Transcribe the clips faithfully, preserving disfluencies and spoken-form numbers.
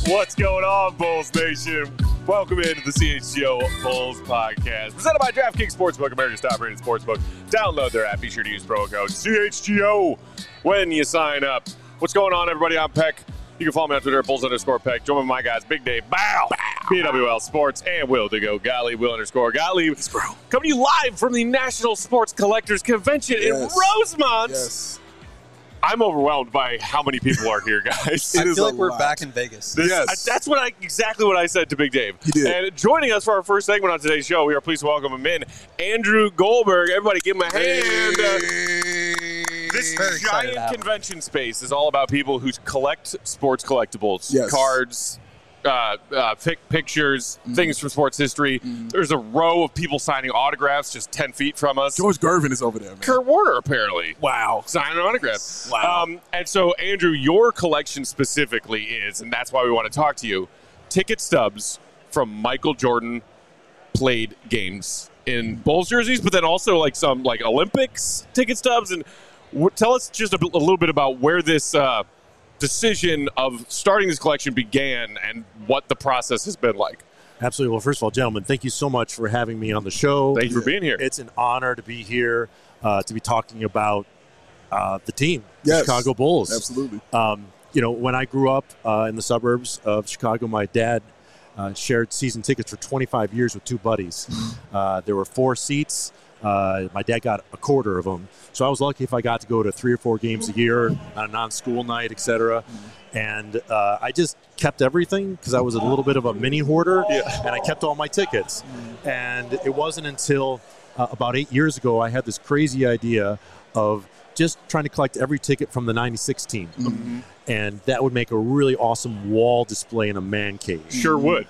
What's going on, Bulls Nation? Welcome into the C H G O Bulls Podcast, presented by DraftKings Sportsbook, America's top-rated sportsbook. Download their app. Be sure to use promo code C H G O when you sign up. What's going on, everybody? I'm Peck. You can follow me on Twitter at Bulls underscore Peck. Join me with my guys, Big Dave, Bow, B W L Sports, and Will to go Gottlieb, Will underscore Gottlieb. Coming to you live from the National Sports Collectors Convention yes. in Rosemont. Yes. I'm overwhelmed by how many people are here, guys. I feel like we're lot. back in Vegas. This, yes. I, that's what I exactly what I said to Big Dave. He did. And joining us for our first segment on today's show, we are pleased to welcome him in, Andrew Goldberg. Everybody give him a hand. Uh, this Very giant convention space is all about people who collect sports collectibles, yes. cards, uh, uh, pic- pictures, mm-hmm. things from sports history. Mm-hmm. There's a row of people signing autographs just ten feet from us. George Gervin is over there, man. Kurt Warner, apparently. Wow. Signing an autograph. Wow. Um, and so, Andrew, your collection specifically is, and that's why we want to talk to you, ticket stubs from Michael Jordan played games in Bulls jerseys, but then also like some like Olympics ticket stubs. And w- tell us just a, b- a little bit about where this uh, decision of starting this collection began and what the process has been like. Absolutely. Well, first of all, gentlemen, thank you so much for having me on the show. Thank you for being here. It's an honor to be here, uh, to be talking about uh, the team, yes, the Chicago Bulls. Absolutely. Um, you know, when I grew up uh, in the suburbs of Chicago, my dad uh, shared season tickets for twenty-five years with two buddies. uh, there were four seats. Uh, my dad got a quarter of them. So I was lucky if I got to go to three or four games a year on a non-school night, et cetera. And uh, I just kept everything because I was a little bit of a mini hoarder, yeah. and I kept all my tickets. And it wasn't until uh, about eight years ago I had this crazy idea of just trying to collect every ticket from the ninety-six team. Mm-hmm. And that would make a really awesome wall display in a man cave. Sure would.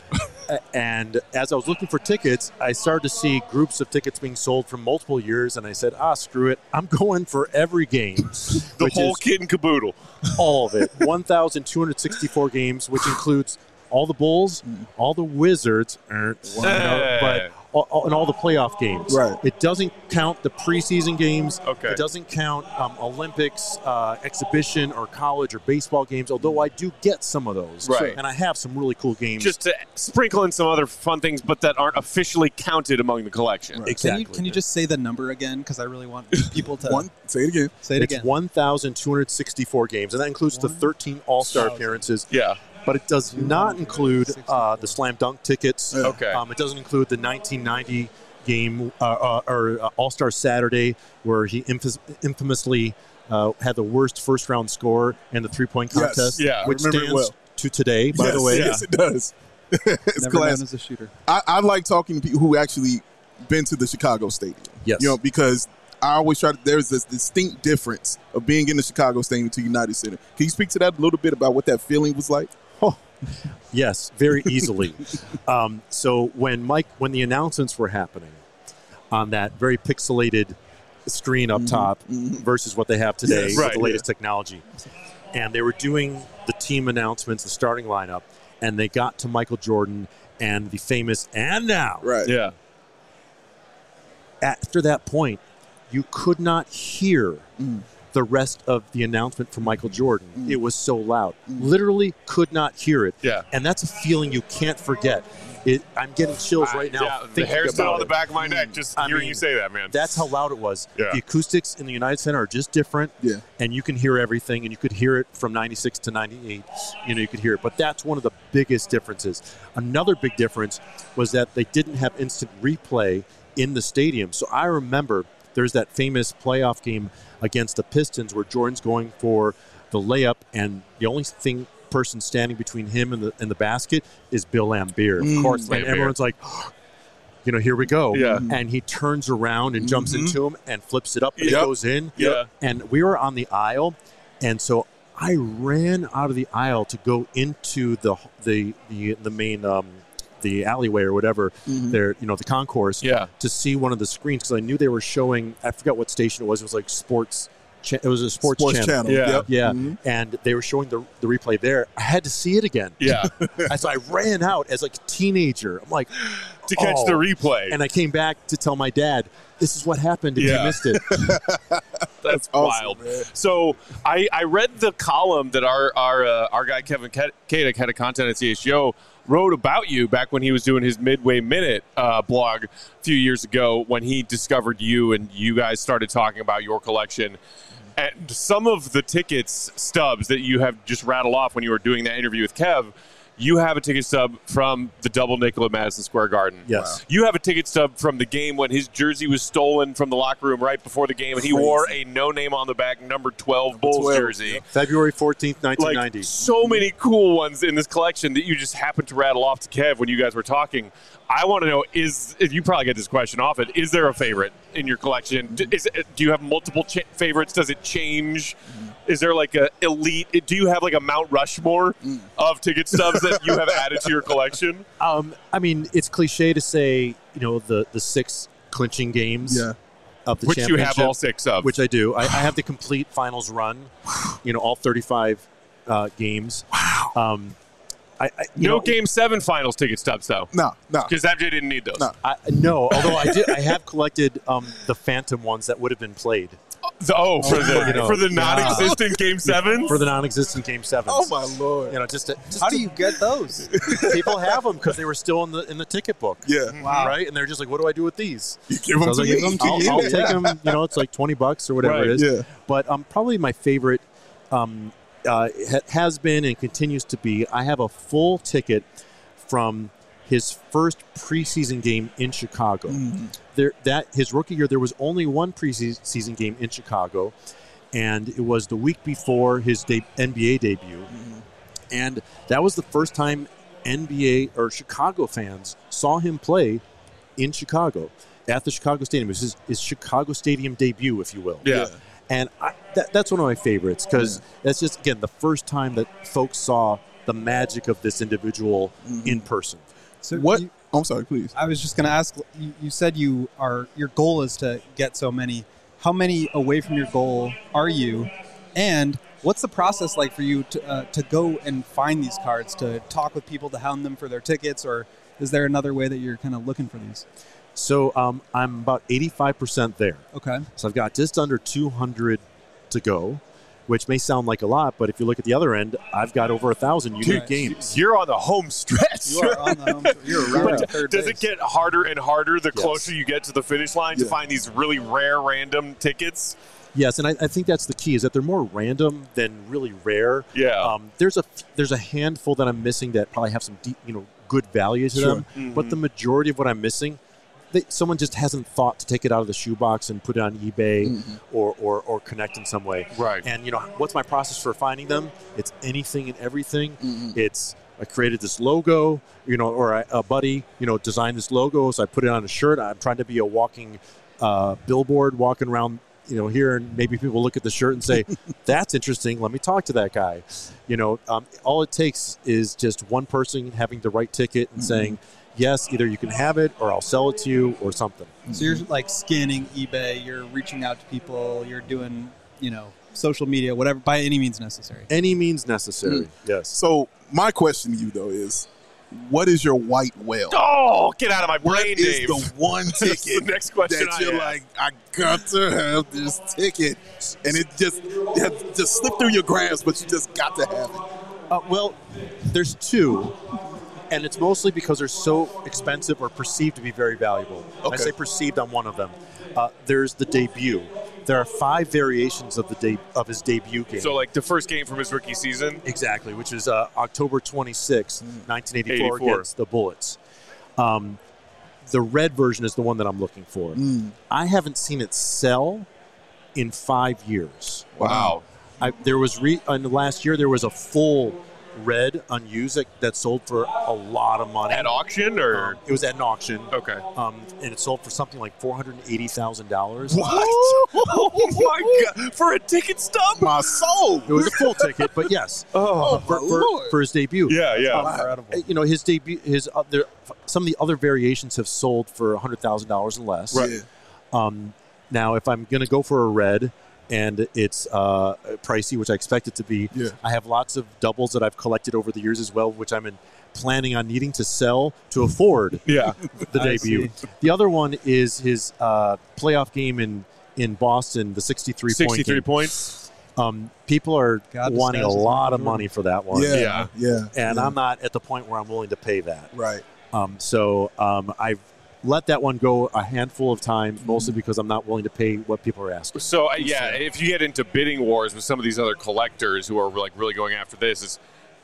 And as I was looking for tickets, I started to see groups of tickets being sold for multiple years, and I said, ah, screw it. I'm going for every game. The whole kit and caboodle. All of it. one thousand two hundred sixty-four games, which includes all the Bulls, all the Wizards, er, you know, but all, all, and all the playoff games. Right. It doesn't count the preseason games. Okay. It doesn't count um, Olympics, uh, exhibition, or college or baseball games, although I do get some of those. Right. And I have some really cool games. Just to sprinkle in some other fun things, but that aren't officially counted among the collection. Right. Exactly. Can you, can you just say the number again? Because I really want people to One, say it again. say it it's again. one thousand two hundred sixty-four games, and that includes the thirteen All-Star appearances. Yeah. But it does not include uh, the slam dunk tickets. Okay. Um, it doesn't include the nineteen ninety game uh, uh, or uh, All-Star Saturday where he infamous, infamously uh, had the worst first-round score in the three-point Yes. contest, Yeah. which I remember it stands well. to today, by yes, the way. Yes, it does. It's Never class. known as a shooter. I, I like talking to people who actually been to the Chicago Stadium. Yes. You know, because I always try to, there's this distinct difference of being in the Chicago Stadium to United Center. Can you speak to that a little bit about what that feeling was like? Oh, yes, very easily. um, so when Mike, when the announcements were happening on that very pixelated screen up Mm-hmm, top mm-hmm. versus what they have today Yes, with right, the latest technology, and they were doing the team announcements, the starting lineup, and they got to Michael Jordan and the famous "and now." Right. Yeah. After that point, you could not hear Mm. the rest of the announcement from Michael Jordan. Mm. It was so loud. Literally could not hear it. Yeah. And that's a feeling you can't forget. It, I'm getting chills right now. Yeah, the thinking hair's still about on the it. back of my neck just I hearing mean, you say that, man. That's how loud it was. Yeah. The acoustics in the United Center are just different. Yeah. And you can hear everything, and you could hear it from ninety-six to ninety-eight. You know, you could hear it. But that's one of the biggest differences. Another big difference was that they didn't have instant replay in the stadium. So I remember there's that famous playoff game against the Pistons where Jordan's going for the layup, and the only thing person standing between him and the and the basket is Bill Laimbeer, of Mm, course. Laimbeer. And everyone's like, you know, here we go. Yeah. And he turns around and jumps Mhm. into him and flips it up, and Yep. it goes in. Yeah. And we were on the aisle, and so I ran out of the aisle to go into the the the, the main um, the alleyway or whatever, Mhm. there, you know, the concourse, Yeah. to see one of the screens because I knew they were showing. I forgot what station it was. It was like Sports cha- it was a sports, Sports channel. channel. Yeah. Yep. Yeah, Mhm. and they were showing the the replay there. I had to see it again. Yeah. And so I ran out as like a teenager. I'm like, to catch oh. the replay. And I came back to tell my dad, this is what happened if Yeah. you missed it. That's awesome, wild. man. So I, I read the column that our our uh, our guy Kevin Kadek, head of content at C H G O, wrote about you back when he was doing his Midway Minute uh, blog a few years ago when he discovered you and you guys started talking about your collection. And some of the tickets stubs that you have just rattled off when you were doing that interview with Kev, you have a ticket stub from the double nickel at Madison Square Garden. Yes. You have a ticket stub from the game when his jersey was stolen from the locker room right before the game, and he Crazy. wore a no name on the back number twelve Bulls twelve, jersey. yeah. February fourteenth, nineteen Like ninety. so many cool ones in this collection that you just happened to rattle off to Kev when you guys were talking. I want to know: is if you probably get this question often? Is there a favorite in your collection? D- Is it, do you have multiple ch- favorites? Does it change? Is there like a elite? Do you have like a Mount Rushmore of ticket stubs that you have added to your collection? Um, I mean, it's cliche to say, you know, the, the six clinching games Yeah. of the Which you championship. have all six of. Which I do. I, I have the complete finals run, you know, all thirty-five uh, games. Wow. Um, I, I, you no know, Game Seven Finals ticket stubs though, No, no. because M J didn't need those. No. I, no, although I did, I have collected um, the Phantom ones that would have been played The- oh, for Oh the my for the God. non-existent Game Sevens. for the non-existent Game Sevens. Oh my lord. You know, just, to, just How to- do you get those? people have them because they were still in the in the ticket book. Yeah. Wow. Right, and they're just like, "What do I do with these?" You give So I them was to like, me. "Give them to I'll, you. I'll I'll take take them. You know, it's like twenty bucks or whatever Right. it is." Yeah. But um, probably my favorite um, uh, ha- has been and continues to be. I have a full ticket from his first preseason game in Chicago. There, that his rookie year, there was only one preseason game in Chicago, and it was the week before his de- N B A debut, and that was the first time N B A or Chicago fans saw him play in Chicago at the Chicago Stadium. It was his, his Chicago Stadium debut, if you will. Yeah. And I, that, that's one of my favorites because that's just, again, the first time that folks saw the magic of this individual in person. So What? you- I'm sorry, please. I was just going to ask. You, you said you are your goal is to get so many. How many away from your goal are you? And what's the process like for you to uh, to go and find these cards, to talk with people, to hound them for their tickets, or is there another way that you're kind of looking for these? So um, I'm about eighty-five percent there. Okay. So I've got just under two hundred to go, which may sound like a lot, but if you look at the other end, I've got over a thousand unique Dude, games. You're on the home stretch. You are on the home. You're around But the third does base. it get harder and harder the Yes. closer you get to the finish line to Yeah. find these really rare random tickets? Yes, and I, I think that's the key, is that they're more random than really rare. Yeah. Um, there's a there's a handful that I'm missing that probably have some deep, you know, good value to Sure. them, but the majority of what I'm missing, they, someone just hasn't thought to take it out of the shoebox and put it on eBay or, or or connect in some way. Right. And you know, what's my process for finding them? It's anything and everything. It's I created this logo, you know, or a, a buddy, you know, designed this logo, so I put it on a shirt. I'm trying to be a walking uh, billboard, walking around, you know, here, and maybe people look at the shirt and say, "That's interesting. Let me talk to that guy." You know, um, all it takes is just one person having the right ticket and saying, "Yes, either you can have it, or I'll sell it to you, or something." So you're like scanning eBay. You're reaching out to people. You're doing, you know, social media, whatever, by any means necessary. Any means necessary. Yes. So my question to you though is, what is your white whale? Oh, get out of my What brain, is Dave. the one That's ticket the next question that I you're have. like, I got to have this ticket, and it just it has just slipped through your grasp, but you just got to have it. Uh, well, there's two, and it's mostly because they're so expensive or perceived to be very valuable. And I Okay. say perceived on one of them. Uh, there's the debut. There are five variations of the de- of his debut game. So, like the first game from his rookie season. Exactly, which is uh, October twenty-sixth, nineteen eighty-four, eighty-four. against the Bullets. Um, the red version is the one that I'm looking for. Mm. I haven't seen it sell in five years. Wow. I, there was re, in the last year there was a full red unused that, that sold for a lot of money. At auction or? Um, it was at an auction, Okay. um, and it sold for something like four hundred eighty thousand dollars. What? Oh my god! For a ticket stub? My soul. It was a full ticket, but yes, Oh, for, my for, Lord. for his debut. yeah, yeah. Incredible. You know, his debut, his other, some of the other variations have sold for one hundred thousand dollars and less. Right. Um, now, if I'm going to go for a red, and it's uh, pricey, which I expect it to be. Yeah. I have lots of doubles that I've collected over the years as well, which I'm in, planning on needing to sell to afford Yeah. the I debut. see. The other one is his uh, playoff game in, in Boston, the sixty-three, sixty-three point game. points. Um, people are God, the wanting a stats is lot of Michael money for that one. Yeah, Yeah. yeah, And yeah. I'm not at the point where I'm willing to pay that. right. Um, so um, I've let that one go a handful of times, mostly because I'm not willing to pay what people are asking. So uh, yeah, if you get into bidding wars with some of these other collectors who are like really going after this, is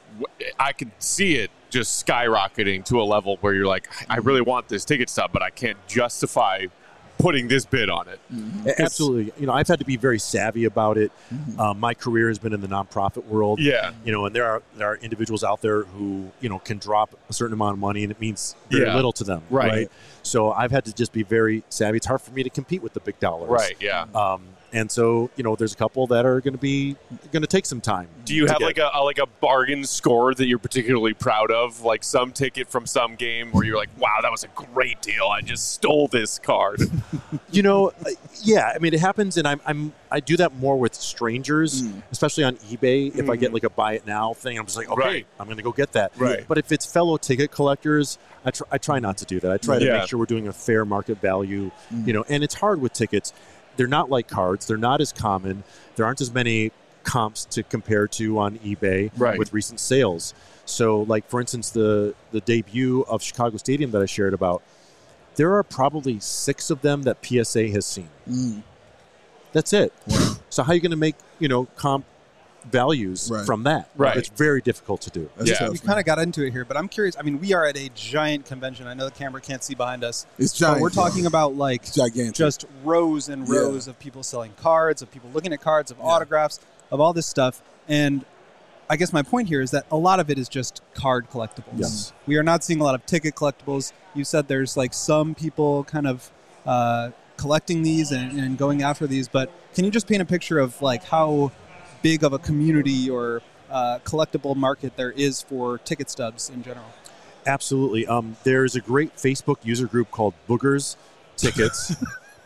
I could see it just skyrocketing to a level where you're like, I really want this ticket stub, but I can't justify putting this bid on it. A- Absolutely. You know, I've had to be very savvy about it. Um, my career has been in the nonprofit world. Yeah. You know, and there are there are individuals out there who, you know, can drop a certain amount of money and it means very Yeah. little to them. Right. So I've had to just be very savvy. It's hard for me to compete with the big dollars. Right. Yeah. Um, and so, you know, there's a couple that are going to be going to take some time. Do you to have get. like a, a like a bargain score that you're particularly proud of? Like some ticket from some game where you're like, wow, that was a great deal. I just stole this card. You know, uh, yeah. I mean, it happens, and I'm, I'm I do that more with strangers, especially on eBay. If I get like a buy it now thing, I'm just like, okay, Right. I'm going to go get that. Right. But if it's fellow ticket collectors, I try, I try not to do that. I try to Yeah. make sure we're doing a fair market value. You know, and it's hard with tickets. They're not like cards. They're not as common. There aren't as many comps to compare to on eBay Right. with recent sales. So, like for instance, the the debut of Chicago Stadium that I shared about. There are probably six of them that P S A has seen. Mm. That's it. So how are you going to make, you know, comp values Right. from that? Right. It's very difficult to do. That's Yeah. tough, We man. kind of got into it here, but I'm curious. I mean, we are at a giant convention. I know the camera can't see behind us. It's But giant. we're talking about like It's gigantic. just rows and Yeah. rows of people selling cards, of people looking at cards, of Yeah. autographs, of all this stuff. And I guess my point here is that a lot of it is just card collectibles. Yes. We are not seeing a lot of ticket collectibles. You said there's like some people kind of uh, collecting these and, and going after these, but can you just paint a picture of like how big of a community or uh, collectible market there is for ticket stubs in general? Absolutely. Um, there's a great Facebook user group called Boogers Tickets.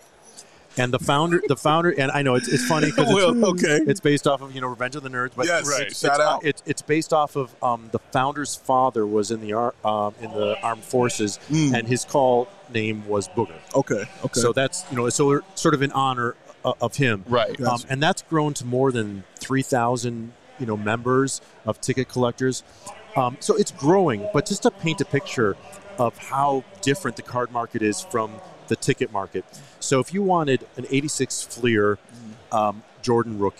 And the founder, the founder, and I know it's, it's funny because Well, it's, okay. it's based off of, you know, Revenge of the Nerds, but Yes, Right. it's, shout it's, out. It's, it's based off of um, the founder's father was in the ar- um, in the armed forces, Mm. and his call name was Booger. Okay, okay. So that's, you know, so we're sort of in honor uh, of him. Right. Gotcha. Um, and that's grown to more than three thousand, you know, members of ticket collectors. Um, so it's growing, but just to paint a picture of how different the card market is from the ticket market. So if you wanted an eighty-six Fleer um, Jordan rookie,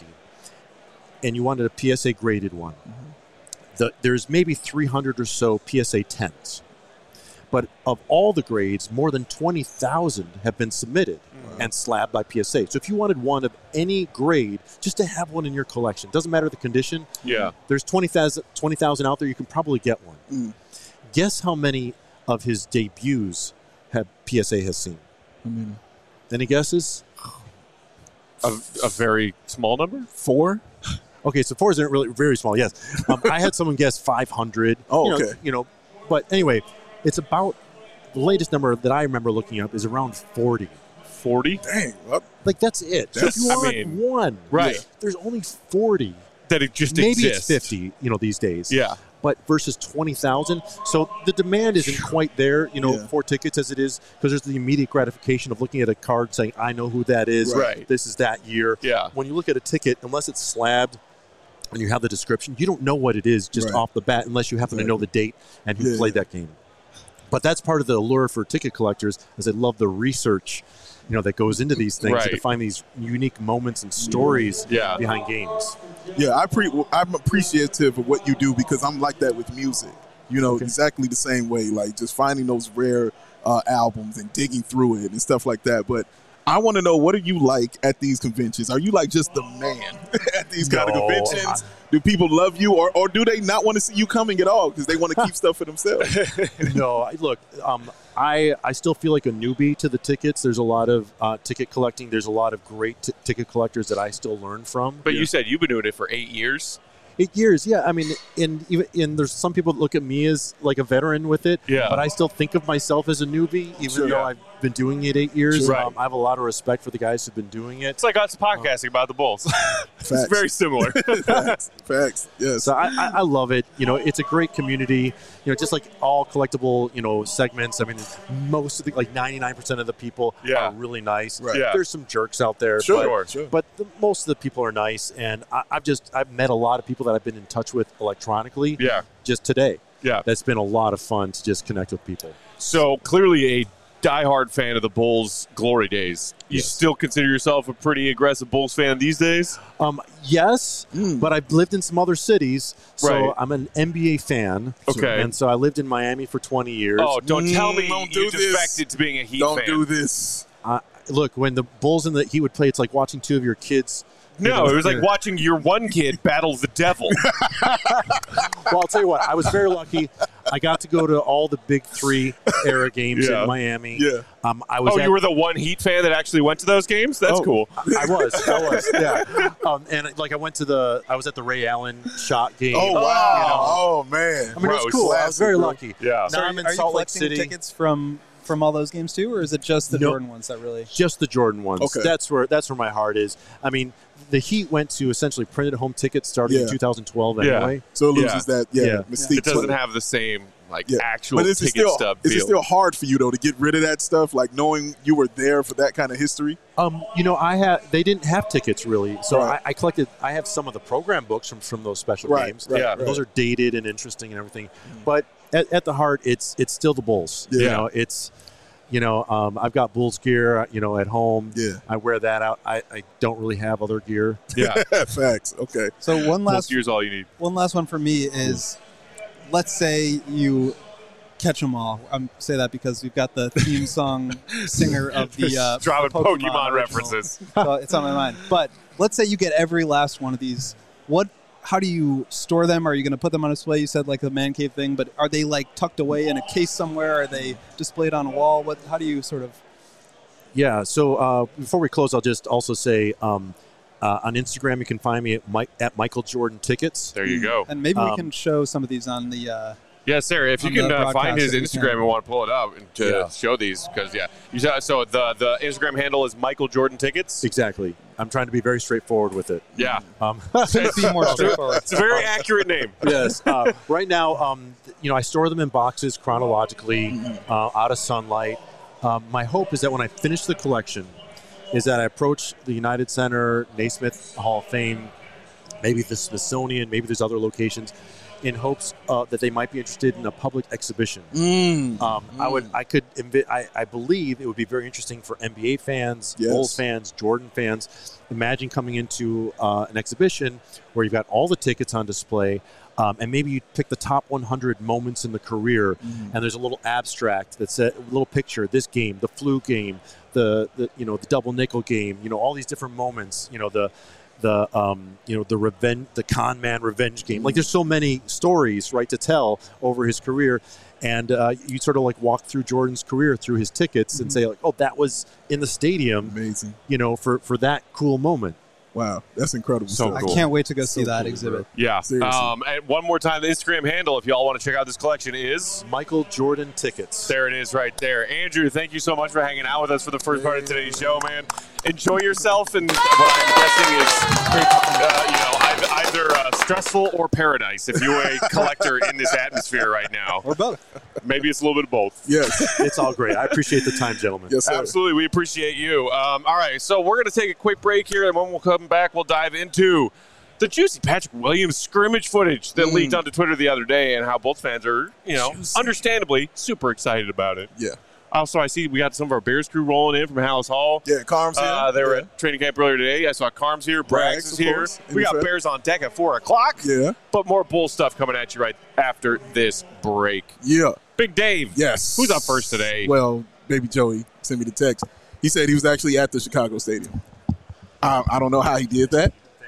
and you wanted a P S A graded one, the, there's maybe three hundred or so P S A tens. But of all the grades, more than twenty thousand have been submitted and slabbed by P S A. So if you wanted one of any grade, just to have one in your collection, doesn't matter the condition, Yeah. there's twenty thousand twenty thousand out there, you can probably get one. Mm. Guess how many of his debuts have P S A has seen? I mean, Any guesses? A, a very small number? four? Okay, so four isn't really very small. Yes, um, I had someone guess five hundred. Oh, you know, okay. You know, but anyway, it's about the latest number that I remember looking up is around forty. forty? Dang. Well, Like that's it. So if That's- you I want mean, one, right. There's only forty. That it just Maybe exists. it's fifty. You know, these days. Yeah. But versus twenty thousand, so the demand isn't quite there, you know, Yeah. for tickets as it is, because there's the immediate gratification of looking at a card saying, I know who that is. Right. This is that year. Yeah. When you look at a ticket, unless it's slabbed and you have the description, you don't know what it is just Right. off the bat unless you happen to know the date and who Yeah. played that game. But that's part of the allure for ticket collectors, is they love the research, you know, that goes into these things Right. to find these unique moments and stories Yeah. behind games. yeah, I pre- I'm appreciative of what you do because I'm like that with music. You know, exactly the same way, like just finding those rare uh, albums and digging through it and stuff like that. But I want to know, what are you like at these conventions? Are you like just the man at these kind of No, conventions? Do people love you, or, or do they not want to see you coming at all because they want to keep stuff for themselves? no, I, look, um, I I still feel like a newbie to the tickets. There's a lot of uh, ticket collecting. There's a lot of great t- ticket collectors that I still learn from. But you said you've been doing it for eight years. Eight years, yeah. I mean, and even and there's some people that look at me as like a veteran with it, Yeah. but I still think of myself as a newbie, even Sure. though Yeah. I've been doing it eight years. Sure. Um, I have a lot of respect for the guys who've been doing it. It's like us podcasting about the Bulls. It's Facts. very similar. Facts. Facts. Yes. So I, I, I love it. You know, it's a great community. You know, just like all collectible, you know, segments. I mean, most of the like ninety-nine percent of the people Yeah. are really nice. Right. Yeah. There's some jerks out there, Sure. but, Sure. but the, most of the people are nice. And I, I've just I've met a lot of people that I've been in touch with electronically. Yeah. Just today. Yeah. That's been a lot of fun to just connect with people. So clearly a diehard fan of the Bulls' glory days. You Yes. still consider yourself a pretty aggressive Bulls fan these days? Um, yes, Mm. but I've lived in some other cities, so Right. I'm an N B A fan. Okay. And so I lived in Miami for twenty years. Oh, don't tell me Mm, don't you do this. defected to being a Heat Don't fan. do this. Uh, look, when the Bulls and the Heat would play, it's like watching two of your kids. No, it was like Yeah. watching your one kid battle the devil. Well, I'll tell you what, I was very lucky. I got to go to all the big three era games Yeah. in Miami. Yeah. Um, I was Oh, at- you were the one Heat fan that actually went to those games? That's Oh, cool. I was. I was. Yeah. Um, and like I went to the. I was at the Ray Allen shot game. Oh, Oh, wow. you know. Oh, man. I mean, it was Gross. cool. I was Classic, very bro. lucky. Yeah. So Now are, I'm in are you Salt Lake collecting City. tickets from from all those games too, or is it just the No. Jordan ones that really? Just the Jordan ones. Okay. That's where that's where my heart is. I mean, the Heat went to essentially printed home tickets starting in Yeah. two thousand twelve Yeah. anyway. So it loses Yeah. that, yeah, Yeah. mystique. It doesn't to it. have the same like Yeah. actual But is it ticket still stub is it feel. still hard for you though to get rid of that stuff, like knowing you were there for that kind of history? Um, you know, I had they didn't have tickets really, so Right. I, I collected. I have some of the program books from from those special Right, games. right, Yeah. right. Those are dated and interesting and everything, but at, at the heart, it's it's still the Bulls. You Yeah. know, it's you know, um, I've got Bulls gear, you know, at home. Yeah. I wear that out. I, I don't really have other gear. Yeah. Facts. Okay. So one Most last years all you need. one last one for me is, let's say you catch them all. I'm say that because we've got the theme song singer of the uh, Dropping Pokemon, Pokemon original. references. So it's on my mind. But let's say you get every last one of these. What? How do you store them? Are you going to put them on display? You said like the man cave thing, but are they like tucked away in a case somewhere? Are they displayed on a wall? What? How do you sort of? Yeah. So uh, before we close, I'll just also say um, uh, on Instagram you can find me at, Mike, at Michael Jordan Tickets. There you go. And maybe we Um, can show some of these on the. Uh, Yeah, Sarah, if you on can the uh, find broadcast his that we Instagram can. and want to pull it up and to Yeah. show these, because, yeah. You saw, so the, the Instagram handle is Michael Jordan Tickets. Exactly. I'm trying to be very straightfortht with it. Yeah. Um, Could be more straightforward. It's a very accurate name. yes. Uh, right now, um, you know, I store them in boxes chronologically, uh, out of sunlight. Um, my hope is that when I finish the collection, is that I approach the United Center, Naismith Hall of Fame, maybe the Smithsonian, maybe there's other locations, in hopes uh, that they might be interested in a public exhibition. Mm. Um, I would, I could, invi- I, I believe it would be very interesting for N B A fans, Yes. Bulls fans, Jordan fans. Imagine coming into uh, an exhibition where you've got all the tickets on display, um, and maybe you pick the top one hundred moments in the career, Mm. and there's a little abstract that's a little picture. This game, the flu game, the, the you know the double nickel game. You know all these different moments. You know the. The um, you know the revenge, the con man revenge game. Like there's so many stories, right, to tell over his career, and uh, you sort of like walk through Jordan's career through his tickets and say like, oh, that was in the stadium, Amazing. you know, for for that cool moment. Wow. That's incredible. So stuff. I cool. can't wait to go see So that cool, exhibit. bro. Yeah. Seriously. Um, and one more time, the Instagram handle, if y'all want to check out this collection, is. Michael Jordan tickets. There it is right there. Andrew, thank you so much for hanging out with us for the first part of today's show, man. Enjoy yourself in what I'm guessing is, uh, you know, ei- either uh, stressful or paradise if you're a collector in this atmosphere right now. Or both. Maybe it's a little bit of both. Yes. It's all great. I appreciate the time, gentlemen. Yes, sir. Absolutely. We appreciate you. Um, all right, so we're going to take a quick break here, and when we'll come back, we'll dive into the juicy Patrick Williams scrimmage footage that Mm. leaked onto Twitter the other day and how Bolts fans are, you know, Juicy. understandably super excited about it. Yeah. Also, I see we got some of our Bears crew rolling in from Hallis Hall. Yeah. Carm's here. Uh, they were yeah. at training camp earlier today. I saw Carm's here. Braggs Braggs, is of here. course. We got In Bears on deck at four o'clock. Yeah. But more Bull stuff coming at you right after this break. Yeah. Big Dave. Yes. Who's up first today? Well, baby Joey sent me the text. He said he was actually at the Chicago Stadium. I, I don't know how he did that.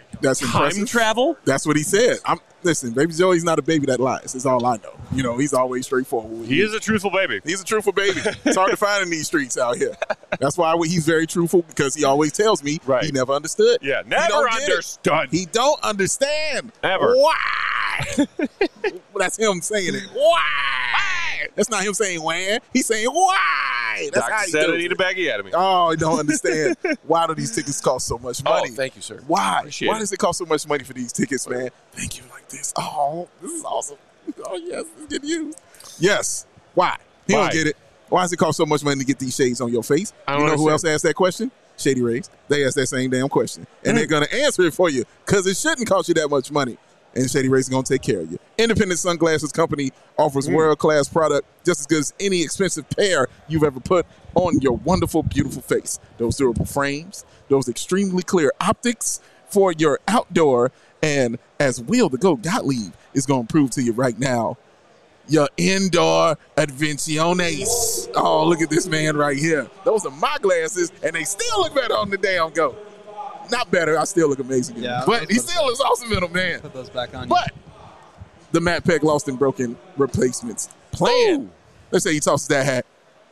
That's Time impressive. travel? That's what he said. I'm listen, Baby Joey's not a baby that lies. That's all I know. You know, he's always straightforward. He is a truthful baby. He's a truthful baby. It's hard to find in these streets out here. That's why he's very truthful, because he always tells me Right. he never understood. Yeah, He never don't get it. understood. He don't understand. Ever. Why? That's him saying it. Why? That's not him saying when. He's saying why. That's how Doctor he said does I need it. a baggie out of me. Oh, I don't understand. Why do these tickets cost so much money? Oh, thank you, sir. Why? Appreciate Why it. does it cost so much money for these tickets, man? Thank you like this. Oh, this is awesome. Oh, yes, it's getting used. Yes. Why? He Why? don't get it. Why does it cost so much money to get these shades on your face? I You don't know who else understand. asked that question? Shady Rays. They asked that same damn question. And they're going to answer it for you, because it shouldn't cost you that much money. And Shady Rays is going to take care of you. Independent Sunglasses Company offers Mm. world-class product just as good as any expensive pair you've ever put on your wonderful, beautiful face. Those durable frames, those extremely clear optics for your outdoor, and as Will the Goat Gottlieb is going to prove to you right now, your indoor advenciones. Oh, look at this man right here. Those are my glasses, and they still look better on the damn Goat. Not better. I still look amazing in Yeah, them. But I was he gonna still looks awesome in them, man. Put those back on. you. But the Matt Peck Lost and Broken replacements plan. Ooh. Let's say he tosses that hat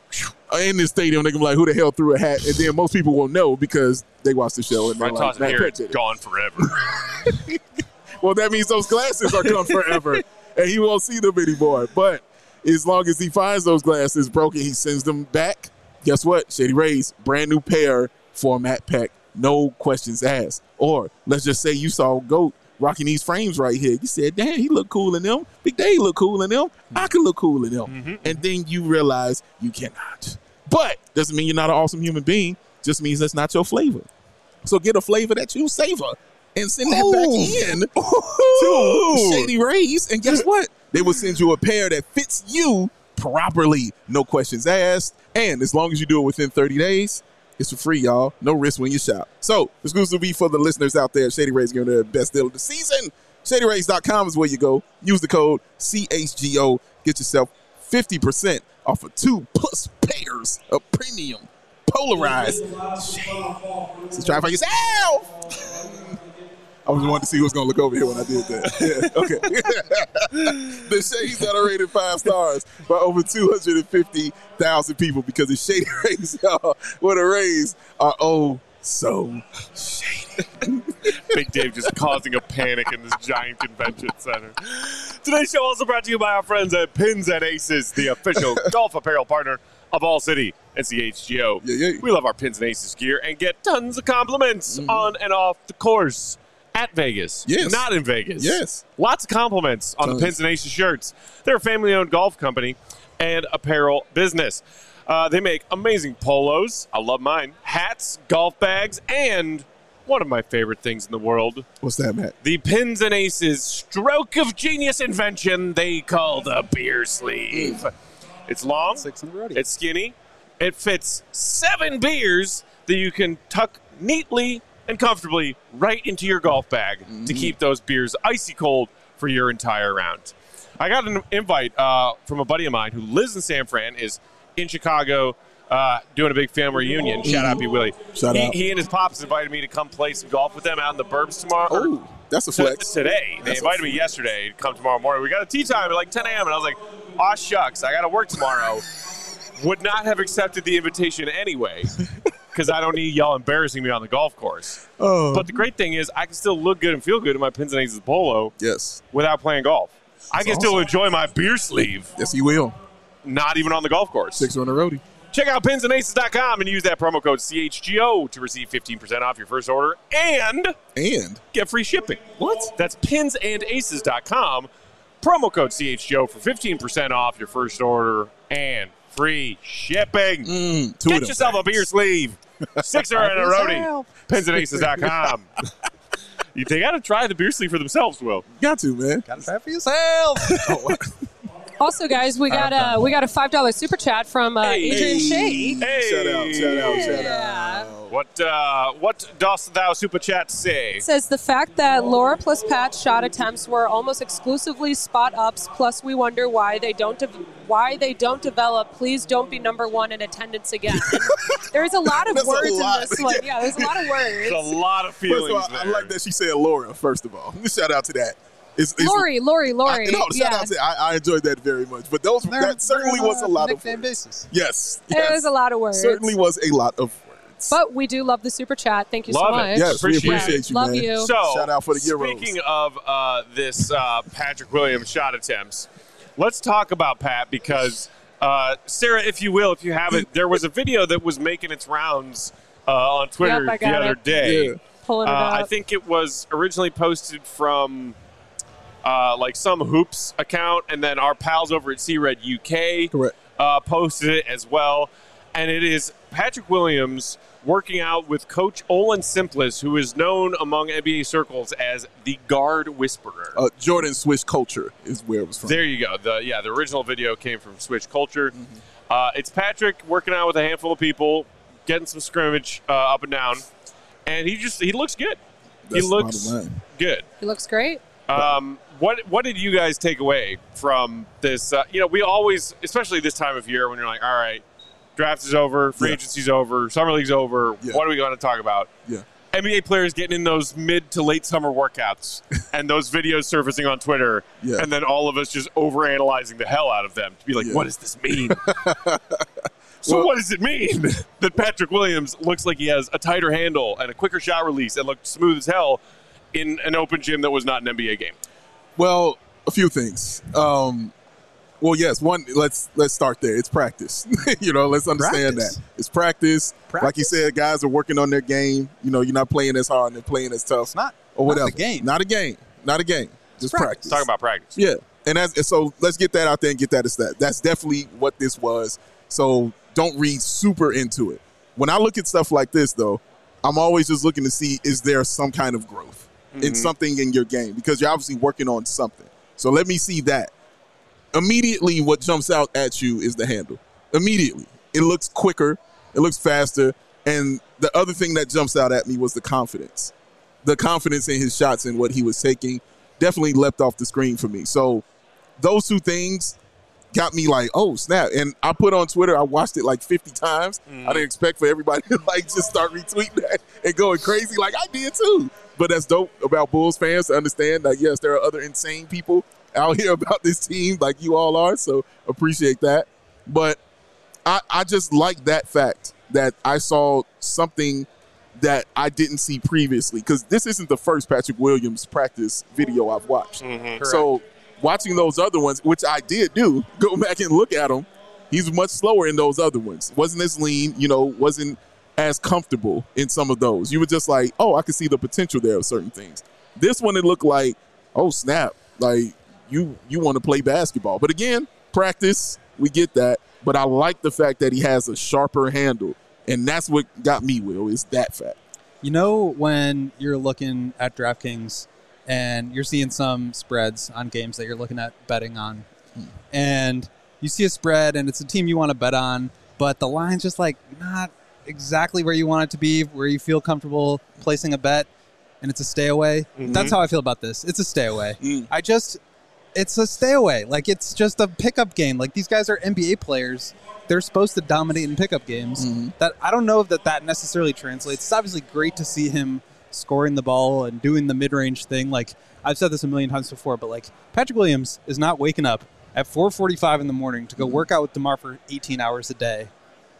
in the stadium. They can be like, who the hell threw a hat? And then most people will know because they watch the show. And If they're I like, toss it Matt here, Peck it's did it. gone forever. Well, that means those glasses are gone forever, and he won't see them anymore. But as long as he finds those glasses broken, he sends them back. Guess what? Shady Rays, brand new pair for Matt Peck. No questions asked. Or let's just say you saw Goat rocking these frames right here. You said, damn, he look cool in them. Big Dave look cool in them. I can look cool in them. Mm-hmm. And then you realize you cannot. But doesn't mean you're not an awesome human being. Just means that's not your flavor. So get a flavor that you savor and send that back in to Shady Rays. And guess what? They will send you a pair that fits you properly. No questions asked. And as long as you do it within thirty days, it's for free, y'all. No risk when you shop. So, exclusively for the listeners out there, Shady Rays giving their best deal of the season. Shady Rays dot com is where you go. Use the code C H G O. Get yourself fifty percent off of two plus pairs of premium polarized shades. So try it for yourself. I was wanting to see who was going to look over here when I did that. Yeah, okay. The shades that are rated five stars by over two hundred fifty thousand people because the Shady Rays, y'all, where the Rays are oh so shady. Big Dave just causing a panic in this giant convention center. Today's show also brought to you by our friends at Pins and Aces, the official golf apparel partner of All City and C H G O. Yeah, yeah. We love our Pins and Aces gear and get tons of compliments Mm-hmm. on and off the course. At Vegas. Yes. Not in Vegas. Yes. Lots of compliments on Tons. the Pins and Aces shirts. They're a family-owned golf company and apparel business. Uh, they make amazing polos. I love mine. Hats, golf bags, and one of my favorite things in the world, What's that, Matt? the Pins and Aces stroke of genius invention they call the beer sleeve. It's long. Six in a row. It's skinny. It fits seven beers that you can tuck neatly and comfortably right into your golf bag Mm-hmm. to keep those beers icy cold for your entire round. I got an invite uh, from a buddy of mine who lives in San Fran, is in Chicago, uh, doing a big family reunion. Shout out, B. Willie. Shout he, out. he and his pops invited me to come play some golf with them out in the burbs tomorrow. or Oh, that's a t- flex. today. They That's a invited me yesterday to come tomorrow morning. We got a tea time at like ten a.m. and I was like, aw, shucks, I got to work tomorrow. Would not have accepted the invitation anyway because I don't need y'all embarrassing me on the golf course. Oh, But the great thing is I can still look good and feel good in my Pins and Aces polo yes. without playing golf. I can That's still awesome. enjoy my beer sleeve, Yes, you will. not even on the golf course. Six on the roadie. Check out pins and aces dot com and use that promo code C H G O to receive fifteen percent off your first order and And get free shipping. what? That's pins and aces dot com. Promo code C H G O for fifteen percent off your first order and free shipping. Mm, two of Get them yourself a things. beer sleeve. Six are in a roadie. pins and aces dot com. You, they got to try the beer sleeve for themselves, Will. Got to, man. Gotta try it for yourself. Oh, Also, guys, we got a we got a five dollar super chat from uh, Hey. Adrian Shea. Hey. Shout out, shout out, shout Yeah. out. What uh, what dost thou super chat say? It says the fact that Laura plus Pat's shot attempts were almost exclusively spot ups. Plus, we wonder why they don't de- why they don't develop. Please don't be number one in attendance again. There's a lot of That's a words lot. in this one. Yeah, there's a lot of words. There's a lot of First feelings of all, I there. like that she said Laura, first of all. Shout out to that. It's, it's, Lori, Lori, Lori. I, no, shout yeah. out to I, I enjoyed that very much. But those They're- that certainly they're on was a lot of nickname words. basis. Yes, It yes. was a lot of words. Certainly was a lot of words. But we do love the super chat. Thank you Love so it. much. yes, appreciate we it. appreciate you, Love man. you. So, Shout out for the Euros. Speaking of uh, this uh, Patrick Williams shot attempts, let's talk about Pat because, uh, Sarah, if you will, if you haven't, there was a video that was making its rounds uh, on Twitter Yep, I the got other it. day. Yeah. Pulling it Uh, up. I think it was originally posted from uh, like some hoops account, and then our pals over at C Red U K Correct. uh, posted it as well. And it is Patrick Williams working out with Coach Olin Simplis, who is known among N B A circles as the Guard Whisperer. Uh, Jordan Swish Culture is where it was from. There you go. The yeah, the original video came from Switch Culture. Uh, it's Patrick working out with a handful of people, getting some scrimmage uh, up and down, and he just he looks good. That's he the looks bottom line. He looks great. Um, what what did you guys take away from this? Uh, you know, we always, especially this time of year, when you're like, all right, draft is over, free Yeah. agency's over, summer league's over. Yeah. What are we going to talk about? Yeah. N B A players getting in those mid to late summer workouts and those videos surfacing on Twitter, Yeah. and then all of us just overanalyzing the hell out of them to be like, Yeah. what does this mean? So Well- what does it mean that Patrick Williams looks like he has a tighter handle and a quicker shot release and looked smooth as hell in an open gym that was not an N B A game? Well, a few things. Um, well, yes. One, let's let's start there. It's practice. you know, let's understand Practice. that it's practice. Like you Practice. said, guys are working on their game. You know, you're not playing as hard and they're playing as tough. It's not or not whatever. a game. Not a game. Not a game. Just practice. practice. Talking about practice. Yeah, and that's and so let's get that out there and get that as that. That's definitely what this was. So don't read super into it. When I look at stuff like this, though, I'm always just looking to see is there some kind of growth in something in your game because you're obviously working on something. So let me see that. Immediately, what jumps out at you is the handle. Immediately, it looks quicker, it looks faster, and the other thing that jumps out at me was the confidence. The confidence in his shots and what he was taking definitely leapt off the screen for me. So those two things got me like, oh, snap. And I put on Twitter, I watched it like fifty times. I didn't expect for everybody to like just start retweeting that and going crazy like I did too. But that's dope about Bulls fans to understand that, yes, there are other insane people out here about this team like you all are. So appreciate that. But I, I just like that fact that I saw something that I didn't see previously because this isn't the first Patrick Williams practice video I've watched. So watching those other ones, which I did do, go back and look at them, he's much slower in those other ones. Wasn't as lean, you know, wasn't as comfortable in some of those. You were just like, oh, I can see the potential there of certain things. This one, it looked like, oh, snap, like you you want to play basketball. But again, practice, we get that. But I like the fact that he has a sharper handle. And that's what got me, Will, is that fact. You know, when you're looking at DraftKings and you're seeing some spreads on games that you're looking at betting on, and you see a spread and it's a team you want to bet on, but the line's just like not exactly where you want it to be, where you feel comfortable placing a bet, and it's a stay away. That's how I feel about this. It's a stay away. Mm. I just, it's a stay away. Like, it's just a pickup game. Like, these guys are N B A players. They're supposed to dominate in pickup games. Mm-hmm. That I don't know if that, that necessarily translates. It's obviously great to see him scoring the ball and doing the mid-range thing. Like, I've said this a million times before, but, like, Patrick Williams is not waking up at four forty-five in the morning to go Mm-hmm. work out with DeMar for eighteen hours a day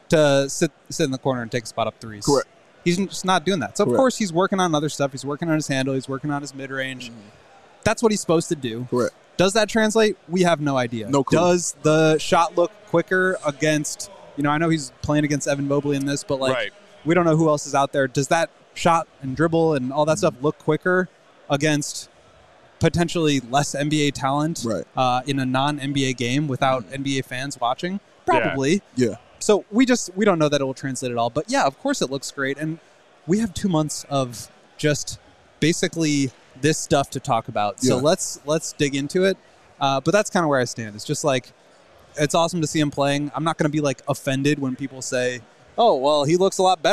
to sit sit in the corner and take spot up threes. Correct. He's just not doing that. So, of Correct. course, he's working on other stuff. He's working on his handle. He's working on his mid-range. That's what he's supposed to do. Correct. Does that translate? We have no idea. No clue. Does the shot look quicker against, you know, I know he's playing against Evan Mobley in this, but, like, Right. we don't know who else is out there. Does that shot and dribble and all that stuff look quicker against potentially less N B A talent Right. uh, in a non-N B A game without N B A fans watching? Probably. Yeah. So we just we don't know that it will translate at all. But yeah, of course it looks great, and we have two months of just basically this stuff to talk about. So Yeah. let's let's dig into it. Uh, but that's kind of where I stand. It's just like it's awesome to see him playing. I'm not going to be like offended when people say, "Oh, well, he looks a lot better."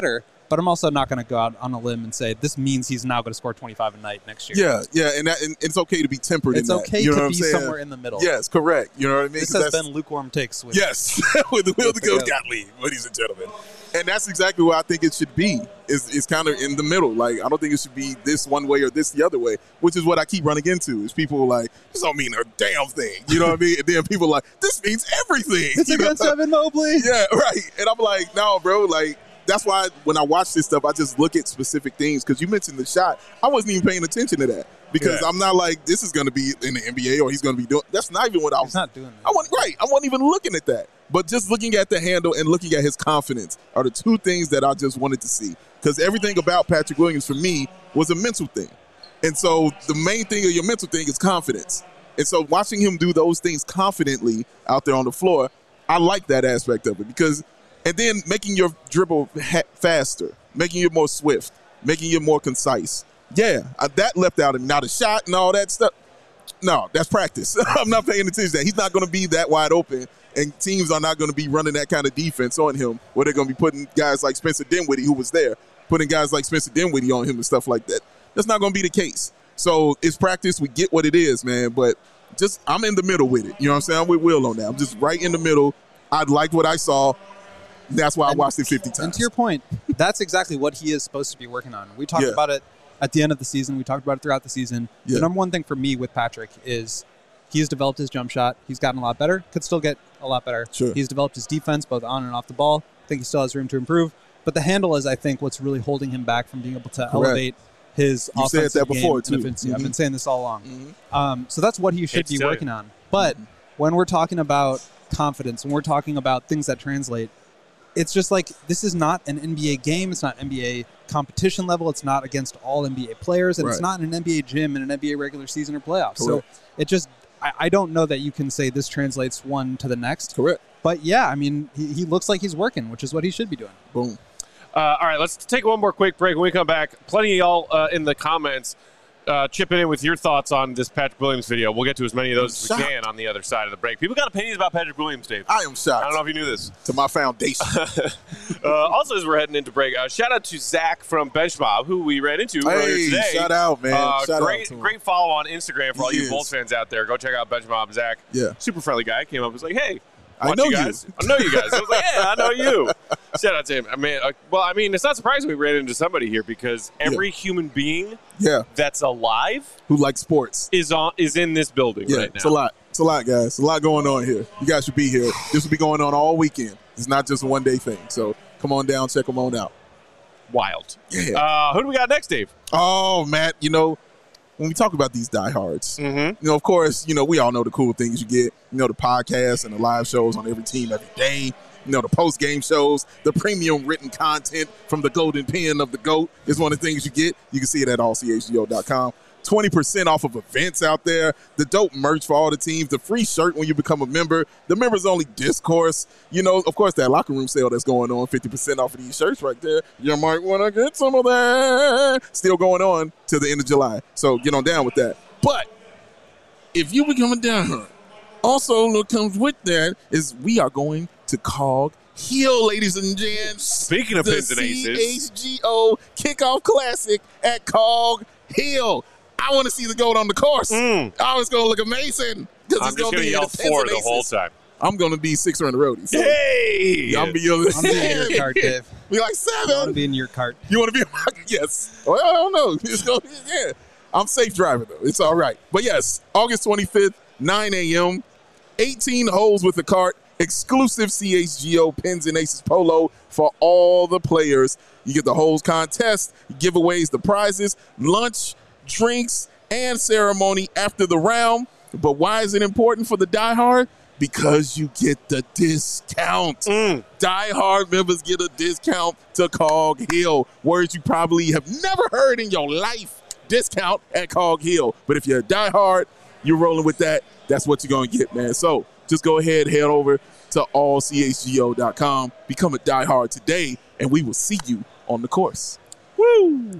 But I'm also not going to go out on a limb and say this means he's now going to score twenty-five a night next year. Yeah, yeah, and, that, and it's okay to be tempered It's in that. okay You know to what I'm be saying? somewhere in the middle. Yes, correct. You know what I mean? This 'Cause has that's- been lukewarm takes. With Yes, with the Will the Goat Gottlieb, ladies and gentlemen. And that's exactly what I think it should be. Is is kind of in the middle. Like, I don't think it should be this one way or this the other way, which is what I keep running into. Is people like, this don't mean a damn thing. You know what I mean? And then people are like, this means everything. It's you know? against Evan Mobley. Yeah, right. And I'm like, no, bro, like, that's why when I watch this stuff, I just look at specific things. Because you mentioned the shot. I wasn't even paying attention to that. Because Yeah. I'm not like, this is going to be in the N B A or he's going to be doing. That's not even what I was. He's not doing that. I wasn't, right. I wasn't even looking at that. But just looking at the handle and looking at his confidence are the two things that I just wanted to see. Because everything about Patrick Williams for me was a mental thing. And so the main thing of your mental thing is confidence. And so watching him do those things confidently out there on the floor, I like that aspect of it. Because, and then making your dribble ha- faster, making it more swift, making it more concise. Yeah, uh, that left out of me. Now the shot and all that stuff, no, that's practice. I'm not paying attention to that. He's not going to be that wide open, and teams are not going to be running that kind of defense on him where they're going to be putting guys like Spencer Dinwiddie, who was there, putting guys like Spencer Dinwiddie on him and stuff like that. That's not going to be the case. So it's practice. We get what it is, man, but just I'm in the middle with it. You know what I'm saying? I'm with Will on that. I'm just right in the middle. I liked what I saw. That's why I watched it fifty times. And to your point, that's exactly what he is supposed to be working on. We talked Yeah. about it at the end of the season. We talked about it throughout the season. Yeah. The number one thing for me with Patrick is he has developed his jump shot. He's gotten a lot better. Could still get a lot better. Sure. He's developed his defense both on and off the ball. I think he still has room to improve. But the handle is, I think, what's really holding him back from being able to elevate his You said offensive that before, game and too. efficiency. I've Mhm. been saying this all along. Mhm. Um, so that's what he Hate should to be tell working you. on. But when we're talking about confidence, when we're talking about things that translate, it's just like this is not an N B A game. It's not N B A competition level. It's not against all N B A players. And it's Right. not in an N B A gym in an N B A regular season or playoffs. So Correct. it just, I, I don't know that you can say this translates one to the next. Correct. But yeah, I mean, he, he looks like he's working, which is what he should be doing. Boom. Uh, all right, let's take one more quick break. When we come back, plenty of y'all uh, in the comments uh, chipping in with your thoughts on this Patrick Williams video. We'll get to as many of those as we Shocked. can on the other side of the break. People got opinions about Patrick Williams, Dave. I am shocked. I don't know if you knew this. To my foundation. Uh, also, as we're heading into break, uh, shout out to Zach from Bench Mob, who we ran into earlier Hey, today. shout out, man. Uh, Shout out great, to him. great follow on Instagram for all He you is. Bulls fans out there. Go check out Bench Mob. Zach, Yeah. super friendly guy, came up and was like, "Hey, I watch know you you. guys. I know you guys." I was like, "Yeah, I know you." Shout out to him. I mean, uh, well, I mean, it's not surprising we ran into somebody here because every human being Yeah. that's alive Who likes sports. is on is in this building Yeah, right now. it's a lot. It's a lot, guys. It's a lot going on here. You guys should be here. This will be going on all weekend. It's not just a one-day thing. So come on down, check them on out. Wild. Yeah. Uh, who do we got next, Dave? Oh, Matt, you know, when we talk about these diehards, Mm-hmm. you know, of course, you know, we all know the cool things you get. You know, the podcasts and the live shows on every team every day. You know, the post-game shows, the premium written content from the golden pen of the GOAT is one of the things you get. You can see it at all c h g o dot com. twenty percent off of events out there, the dope merch for all the teams, the free shirt when you become a member, the members-only discourse. You know, of course, that locker room sale that's going on, fifty percent off of these shirts right there. You might want to get some of that. Still going on till the end of July. So get on down with that. But if you become a diehard, also what comes with that is we are going to Cog Hill, ladies and gents. Speaking of the pins and aces. C H G O Kickoff Classic at Cog Hill. I want to see the GOAT on the course. Mm. Oh, it's going to look amazing. I'm it's just going to be yell the pins four and the whole aces. time. I'm going to be sixer in the roadie. So Hey! I'm be yelling. I'm being in your cart, Dave. Be like I want to seven. be in your cart. You want to be in my yes? Well, I don't know. It's gonna, yeah, I'm safe driving though. It's all right. But yes, August twenty-fifth, nine a.m. eighteen holes with the cart. Exclusive C H G O Pins and Aces polo for all the players. You get the holes contest, giveaways, the prizes, lunch, drinks, and ceremony after the round. But why is it important for the diehard? Because you get the discount. Mm. Die-hard members get a discount to Cog Hill. Words you probably have never heard in your life. Discount at Cog Hill. But if you're a die-hard, you're rolling with that. That's what you're going to get, man. So just go ahead, head over to all c h g o dot com. Become a die-hard today, and we will see you on the course. Woo!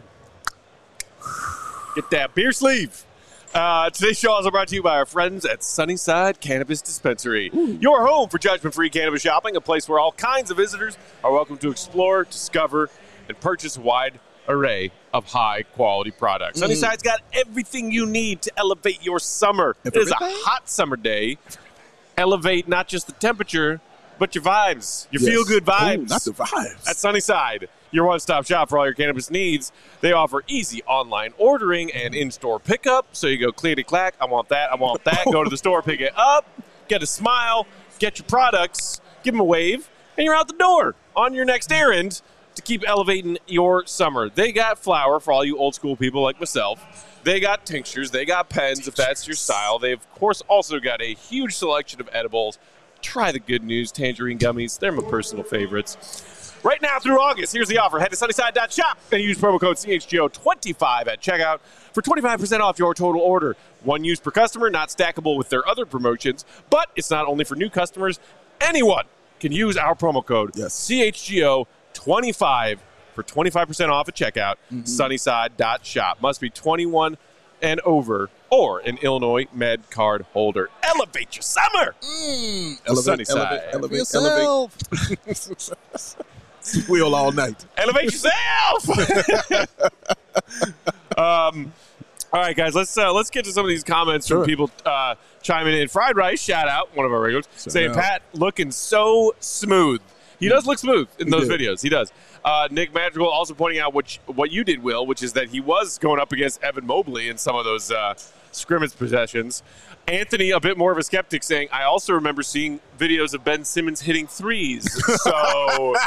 Get that beer sleeve. Uh, today's show is brought to you by our friends at Sunnyside Cannabis Dispensary. Your home for judgment-free cannabis shopping, a place where all kinds of visitors are welcome to explore, discover, and purchase a wide array of high-quality products. Mm. Sunnyside's got everything you need to elevate your summer. Everything? It is a hot summer day. Elevate not just the temperature, but your vibes, your yes. feel-good vibes. Ooh, not the vibes. At Sunnyside, your one-stop shop for all your cannabis needs. They offer easy online ordering and in-store pickup. So you go clickety-clack, I want that, I want that. Go to the store, pick it up, get a smile, get your products, give them a wave, and you're out the door on your next errand to keep elevating your summer. They got flour for all you old-school people like myself. They got tinctures. They got pens if that's your style. They, of course, also got a huge selection of edibles. Try the Good News Tangerine Gummies. They're my personal favorites. Right now through August, here's the offer. Head to sunnyside dot shop and use promo code C H G O twenty-five at checkout for twenty-five percent off your total order. One use per customer, not stackable with their other promotions, but it's not only for new customers. Anyone can use our promo code yes. C H G O twenty-five for twenty-five percent off at checkout. Mm-hmm. sunnyside dot shop. Must be twenty-one and over or an Illinois Med card holder. Elevate your summer. Mm. Elevate, Sunnyside. Elevate, elevate, elevate. elevate. Wheel all night. Elevate yourself. um, all right, guys. Let's uh, let's get to some of these comments sure. from people uh, chiming in. Fried Rice, shout out, one of our regulars, shout saying out. Pat looking so smooth. He does look smooth in he those did. videos. He does. Uh, Nick Madrigal also pointing out what you, what you did, Will, which is that he was going up against Evan Mobley in some of those uh, scrimmage possessions. Anthony, a bit more of a skeptic, saying, I also remember seeing videos of Ben Simmons hitting threes. So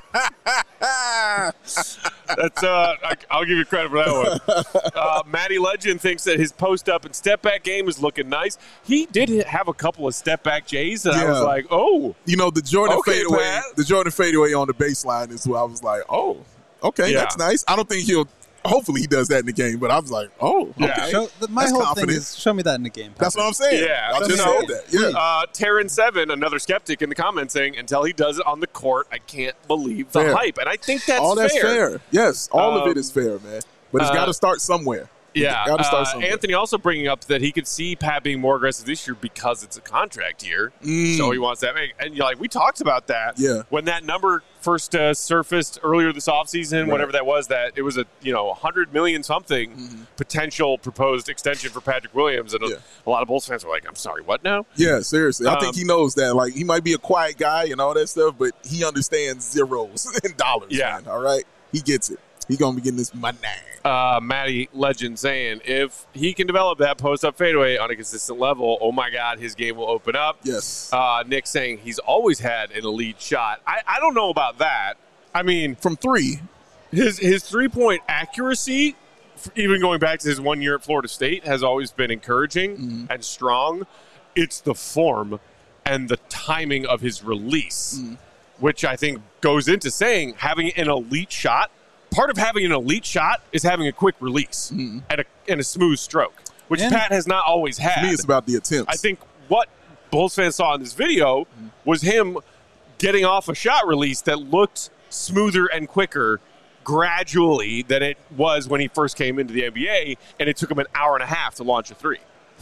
that's uh, I, I'll give you credit for that one. Uh, Matty Legend thinks that his post-up and step-back game is looking nice. He did have a couple of step-back J's, and yeah. I was like, oh. You know, the Jordan okay, fadeaway, Pat. the Jordan fadeaway on the baseline is where I was like, oh, okay, yeah. that's nice. I don't think he'll. Hopefully he does that in the game, but I was like, oh, okay. Yeah. Show, the, my That's whole confident. thing is show me that in the game. That's what I'm saying. Yeah. I just So, said that. Yeah. Uh, Terran seven, another skeptic in the comments saying, until he does it on the court, I can't believe the fair. hype. And I think that's all that's fair. fair. Yes, all um, of it is fair, man. But it's uh, got to start somewhere. Yeah. Got to start uh, somewhere. Anthony also bringing up that he could see Pat being more aggressive this year because it's a contract year. Mm. So he wants that. And you're like, we talked about that. Yeah. When that number first uh, surfaced earlier this offseason, right. whatever that was, that it was a, you know, one hundred million something mm-hmm. potential proposed extension for Patrick Williams. And yeah. a, a lot of Bulls fans were like, I'm sorry, what now? Yeah, seriously. I Um, think he knows that. Like, he might be a quiet guy and all that stuff, but he understands zeros and dollars, Yeah. man, all right? He gets it. He going to be getting this money. Uh, Matty Legend saying, if he can develop that post-up fadeaway on a consistent level, oh, my God, his game will open up. Yes. Uh, Nick saying he's always had an elite shot. I, I don't know about that. I mean, from three, his his three-point accuracy, even going back to his one year at Florida State, has always been encouraging mm-hmm. and strong. It's the form and the timing of his release, mm-hmm. which I think goes into saying having an elite shot. Part of having an elite shot is having a quick release mm-hmm. and, a, and a smooth stroke, which and Pat has not always had. To me, it's about the attempts. I think what Bulls fans saw in this video mm-hmm. was him getting off a shot release that looked smoother and quicker gradually than it was when he first came into the N B A, and it took him an hour and a half to launch a three.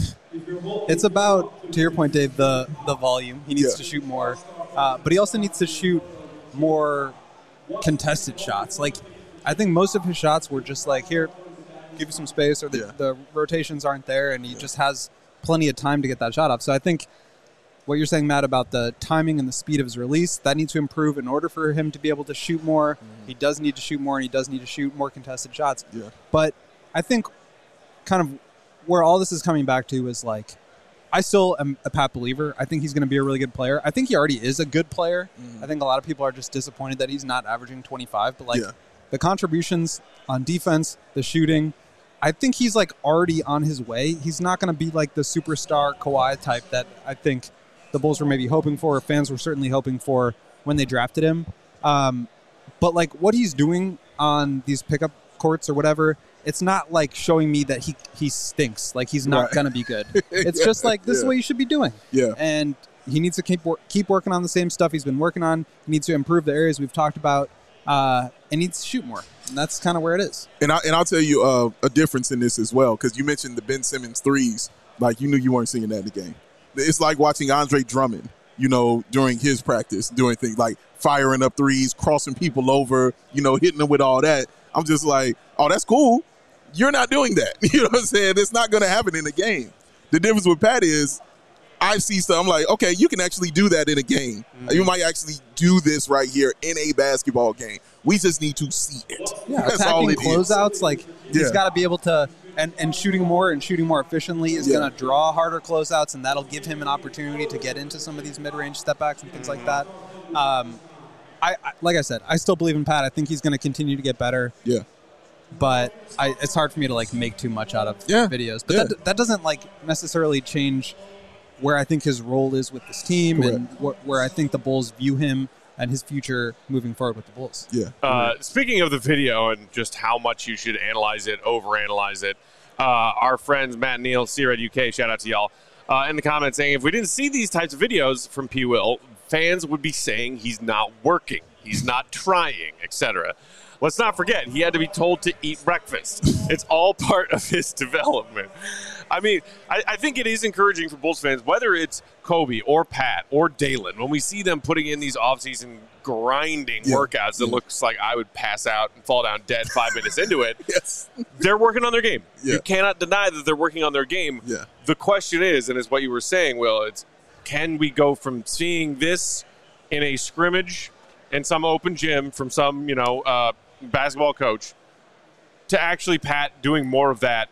It's about, to your point, Dave, the, the volume. He needs yeah. to shoot more, uh, but he also needs to shoot more contested shots. Like, I think most of his shots were just like, here, give you some space, or the, yeah. the rotations aren't there, and he yeah. just has plenty of time to get that shot off. So I think what you're saying, Matt, about the timing and the speed of his release, that needs to improve in order for him to be able to shoot more. Mm-hmm. He does need to shoot more, and he does need to shoot more contested shots. Yeah. But I think kind of where all this is coming back to is, like, I still am a Pat believer. I think he's going to be a really good player. I think he already is a good player. Mm-hmm. I think a lot of people are just disappointed that he's not averaging twenty-five. But, like, yeah. the contributions on defense, the shooting, I think he's, like, already on his way. He's not going to be, like, the superstar Kawhi type that I think the Bulls were maybe hoping for, or fans were certainly hoping for when they drafted him. Um, but, like, what he's doing on these pickup courts or whatever, it's not like showing me that he, he stinks. Like, he's not right. going to be good. It's yeah, just like, this yeah. is what you should be doing. Yeah. And he needs to keep wor- keep working on the same stuff he's been working on. He needs to improve the areas we've talked about, uh, and needs to shoot more. And that's kind of where it is. And, I, and I'll tell you uh, a difference in this as well, because you mentioned the Ben Simmons threes. Like, you knew you weren't seeing that in the game. It's like watching Andre Drummond you know, during his practice, doing things like firing up threes, crossing people over, you know, hitting them with all that. I'm just like, oh, that's cool. You're not doing that. You know what I'm saying? It's not going to happen in the game. The difference with Pat is I see stuff. I'm like, okay, you can actually do that in a game. Mm-hmm. You might actually do this right here in a basketball game. We just need to see it. Yeah, that's attacking all it closeouts, is. like Yeah. he's got to be able to, and, and shooting more and shooting more efficiently is Yeah. going to draw harder closeouts, and that'll give him an opportunity to get into some of these mid-range stepbacks and things like that. Um, I, I like I said, I still believe in Pat. I think he's going to continue to get better. Yeah. But I, it's hard for me to like make too much out of Yeah. videos. But Yeah. that that doesn't like necessarily change where I think his role is with this team and wh- where I think the Bulls view him and his future moving forward with the Bulls. Yeah. Uh, speaking of the video and just how much you should analyze it, overanalyze it, uh, our friends Matt and Neal, C-Red U K, shout out to y'all, uh, in the comments saying if we didn't see these types of videos from P. Will, fans would be saying he's not working, he's not trying, et cetera. Let's not forget, he had to be told to eat breakfast. It's all part of his development. I mean, I, I think it is encouraging for Bulls fans, whether it's Kobe or Pat or Dalen, when we see them putting in these offseason grinding Yeah. workouts that Yeah. looks like I would pass out and fall down dead five minutes into it, Yes. they're working on their game. Yeah. You cannot deny that they're working on their game. Yeah. The question is, and it's what you were saying, Will, it's can we go from seeing this in a scrimmage in some open gym from some, you know, uh, basketball coach to actually Pat doing more of that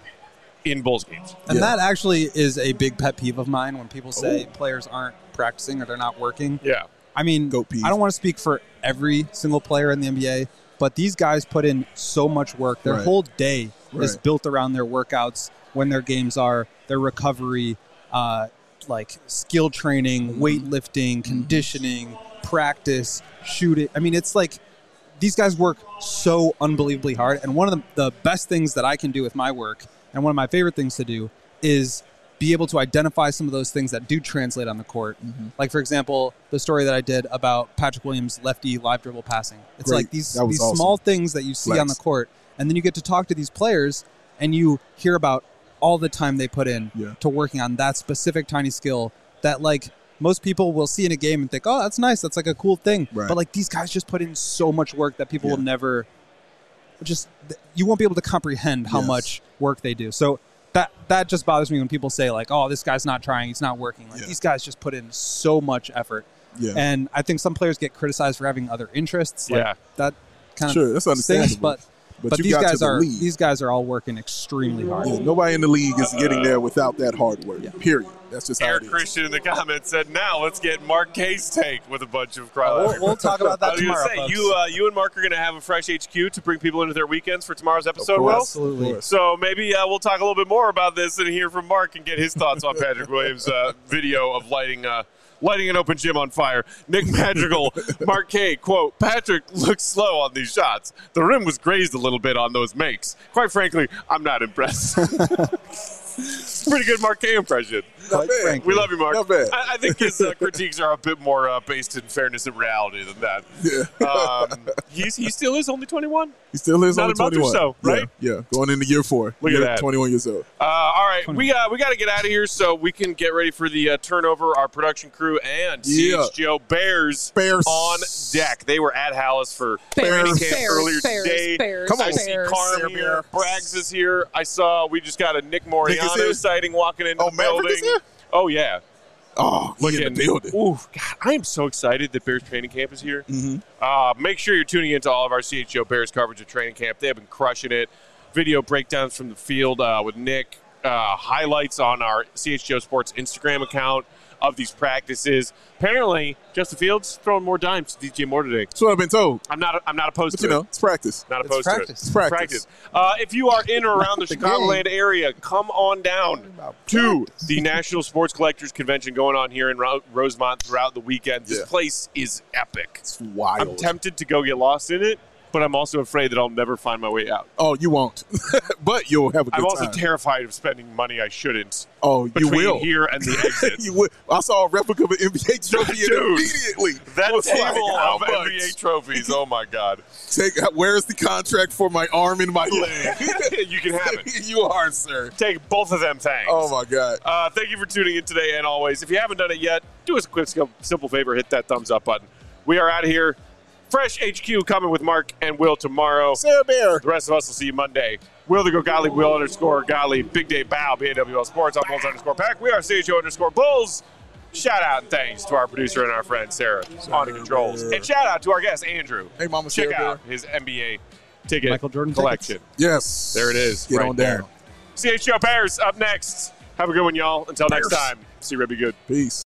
in Bulls games? And Yeah. that actually is a big pet peeve of mine when people say players aren't practicing or they're not working. Yeah. I mean, Goat peeve. I don't want to speak for every single player in the N B A, but these guys put in so much work. Their Right. whole day is Right. built around their workouts, when their games are, their recovery, uh, like skill training, Mm-hmm. weightlifting, conditioning, practice, shooting. I mean, it's like these guys work so unbelievably hard. And one of the, the best things that I can do with my work, and one of my favorite things to do, is be able to identify some of those things that do translate on the court. Mm-hmm. Like, for example, the story that I did about Patrick Williams' lefty live dribble passing. It's Great. like these, That was these awesome. small things that you see Flex. on the court, and then you get to talk to these players, and you hear about all the time they put in Yeah. to working on that specific tiny skill that, like, most people will see in a game and think, oh, that's nice. That's like a cool thing. Right. But, like, these guys just put in so much work that people Yeah. will never just, you won't be able to comprehend how Yes. much work they do. So that that just bothers me when people say, like, oh, this guy's not trying, he's not working. Like, Yeah. these guys just put in so much effort. Yeah. And I think some players get criticized for having other interests. Like, Yeah. that kind Sure, of that's stinks, understandable. but But but you these got to guys the are league. these guys are all working extremely hard. Yeah, nobody in the league is getting there without that hard work. Period. That's just how Eric it is. Christian in the comments said, now let's get Mark K's take with a bunch of crowd. We'll, we'll talk about I that was going to tomorrow, say, folks. you, uh, you and Mark are going to have a fresh H Q to bring people into their weekends for tomorrow's episode, course. Will? Absolutely. Of course. So maybe uh, we'll talk a little bit more about this and hear from Mark and get his thoughts on Patrick Williams' uh, video of lighting uh, lighting an open gym on fire. Nick Madrigal, Mark K, quote, Patrick looks slow on these shots. The rim was grazed a little bit on those makes. Quite frankly, I'm not impressed. Pretty good Mark K impression. Not bad. frankly. We love you, Mark. Not bad. I, I think his uh, critiques are a bit more uh, based in fairness and reality than that. Yeah. Um, he's, he still is only twenty-one. He still is Not only a month or twenty-one. so, right? Yeah, yeah. Going into year four. Look at Year that. twenty-one years old. Uh, all right, we uh, we got to get out of here so we can get ready for the uh, turnover. Our production crew and Yeah. C H G O Bears, Bears. on deck. They were at Hallis for Bears, training camp Bears, earlier Bears, today. Bears, Come on. I see Bears. Carm Bears. here. Braggs is here. I saw we just got a Nick Nick is Moriano here? sighting walking into Oh, the Maverick building. is here? Oh yeah, Oh, look looking in the building. Ooh, God, I am so excited that Bears training camp is here. Mm-hmm. Uh, make sure you're tuning into all of our C H G O Bears coverage of training camp. They have been crushing it. Video breakdowns from the field uh, with Nick. Uh, highlights on our C H G O Sports Instagram account of these practices. Apparently, Justin Fields throwing more dimes to D J Moore today. That's what I've been told. I'm not. I'm not opposed But to you know, it. it's practice. Not It's opposed practice. to it. It's practice. Uh, if you are in or around the The Chicagoland area, come on down to the National Sports Collectors Convention going on here in Ro- Rosemont throughout the weekend. This Yeah. place is epic. It's wild. I'm tempted to go get lost in it, but I'm also afraid that I'll never find my way out. Oh, you won't. But you'll have a good I'm also time. terrified of spending money I shouldn't. Oh, you between will. here and the exit. You will. I saw a replica of an N B A trophy Dude, and immediately. That was table like, how of N B A much? trophies. Oh my God. Take. Where's the contract for my arm and my leg? You can have it. You are, sir. Take both of them things. Oh my God. Uh, thank you for tuning in today, and always, if you haven't done it yet, do us a quick, simple favor: hit that thumbs up button. We are out of here. Fresh H Q coming with Mark and Will tomorrow. Sarah Bear. The rest of us will see you Monday. Will the go Golly, Will underscore Golly, Big Day Bow, B A W L Sports, on Bulls underscore Pack. We are C H O underscore Bulls. Shout out and thanks to our producer and our friend Sarah on the controls. And shout out to our guest Andrew. Hey, Mama Check Sarah out his N B A ticket Michael Jordan collection. tickets. Yes. There it is. Get right on there. down. C H O Bears up next. Have a good one, y'all. Until next Bears. time, see Red be good. Peace.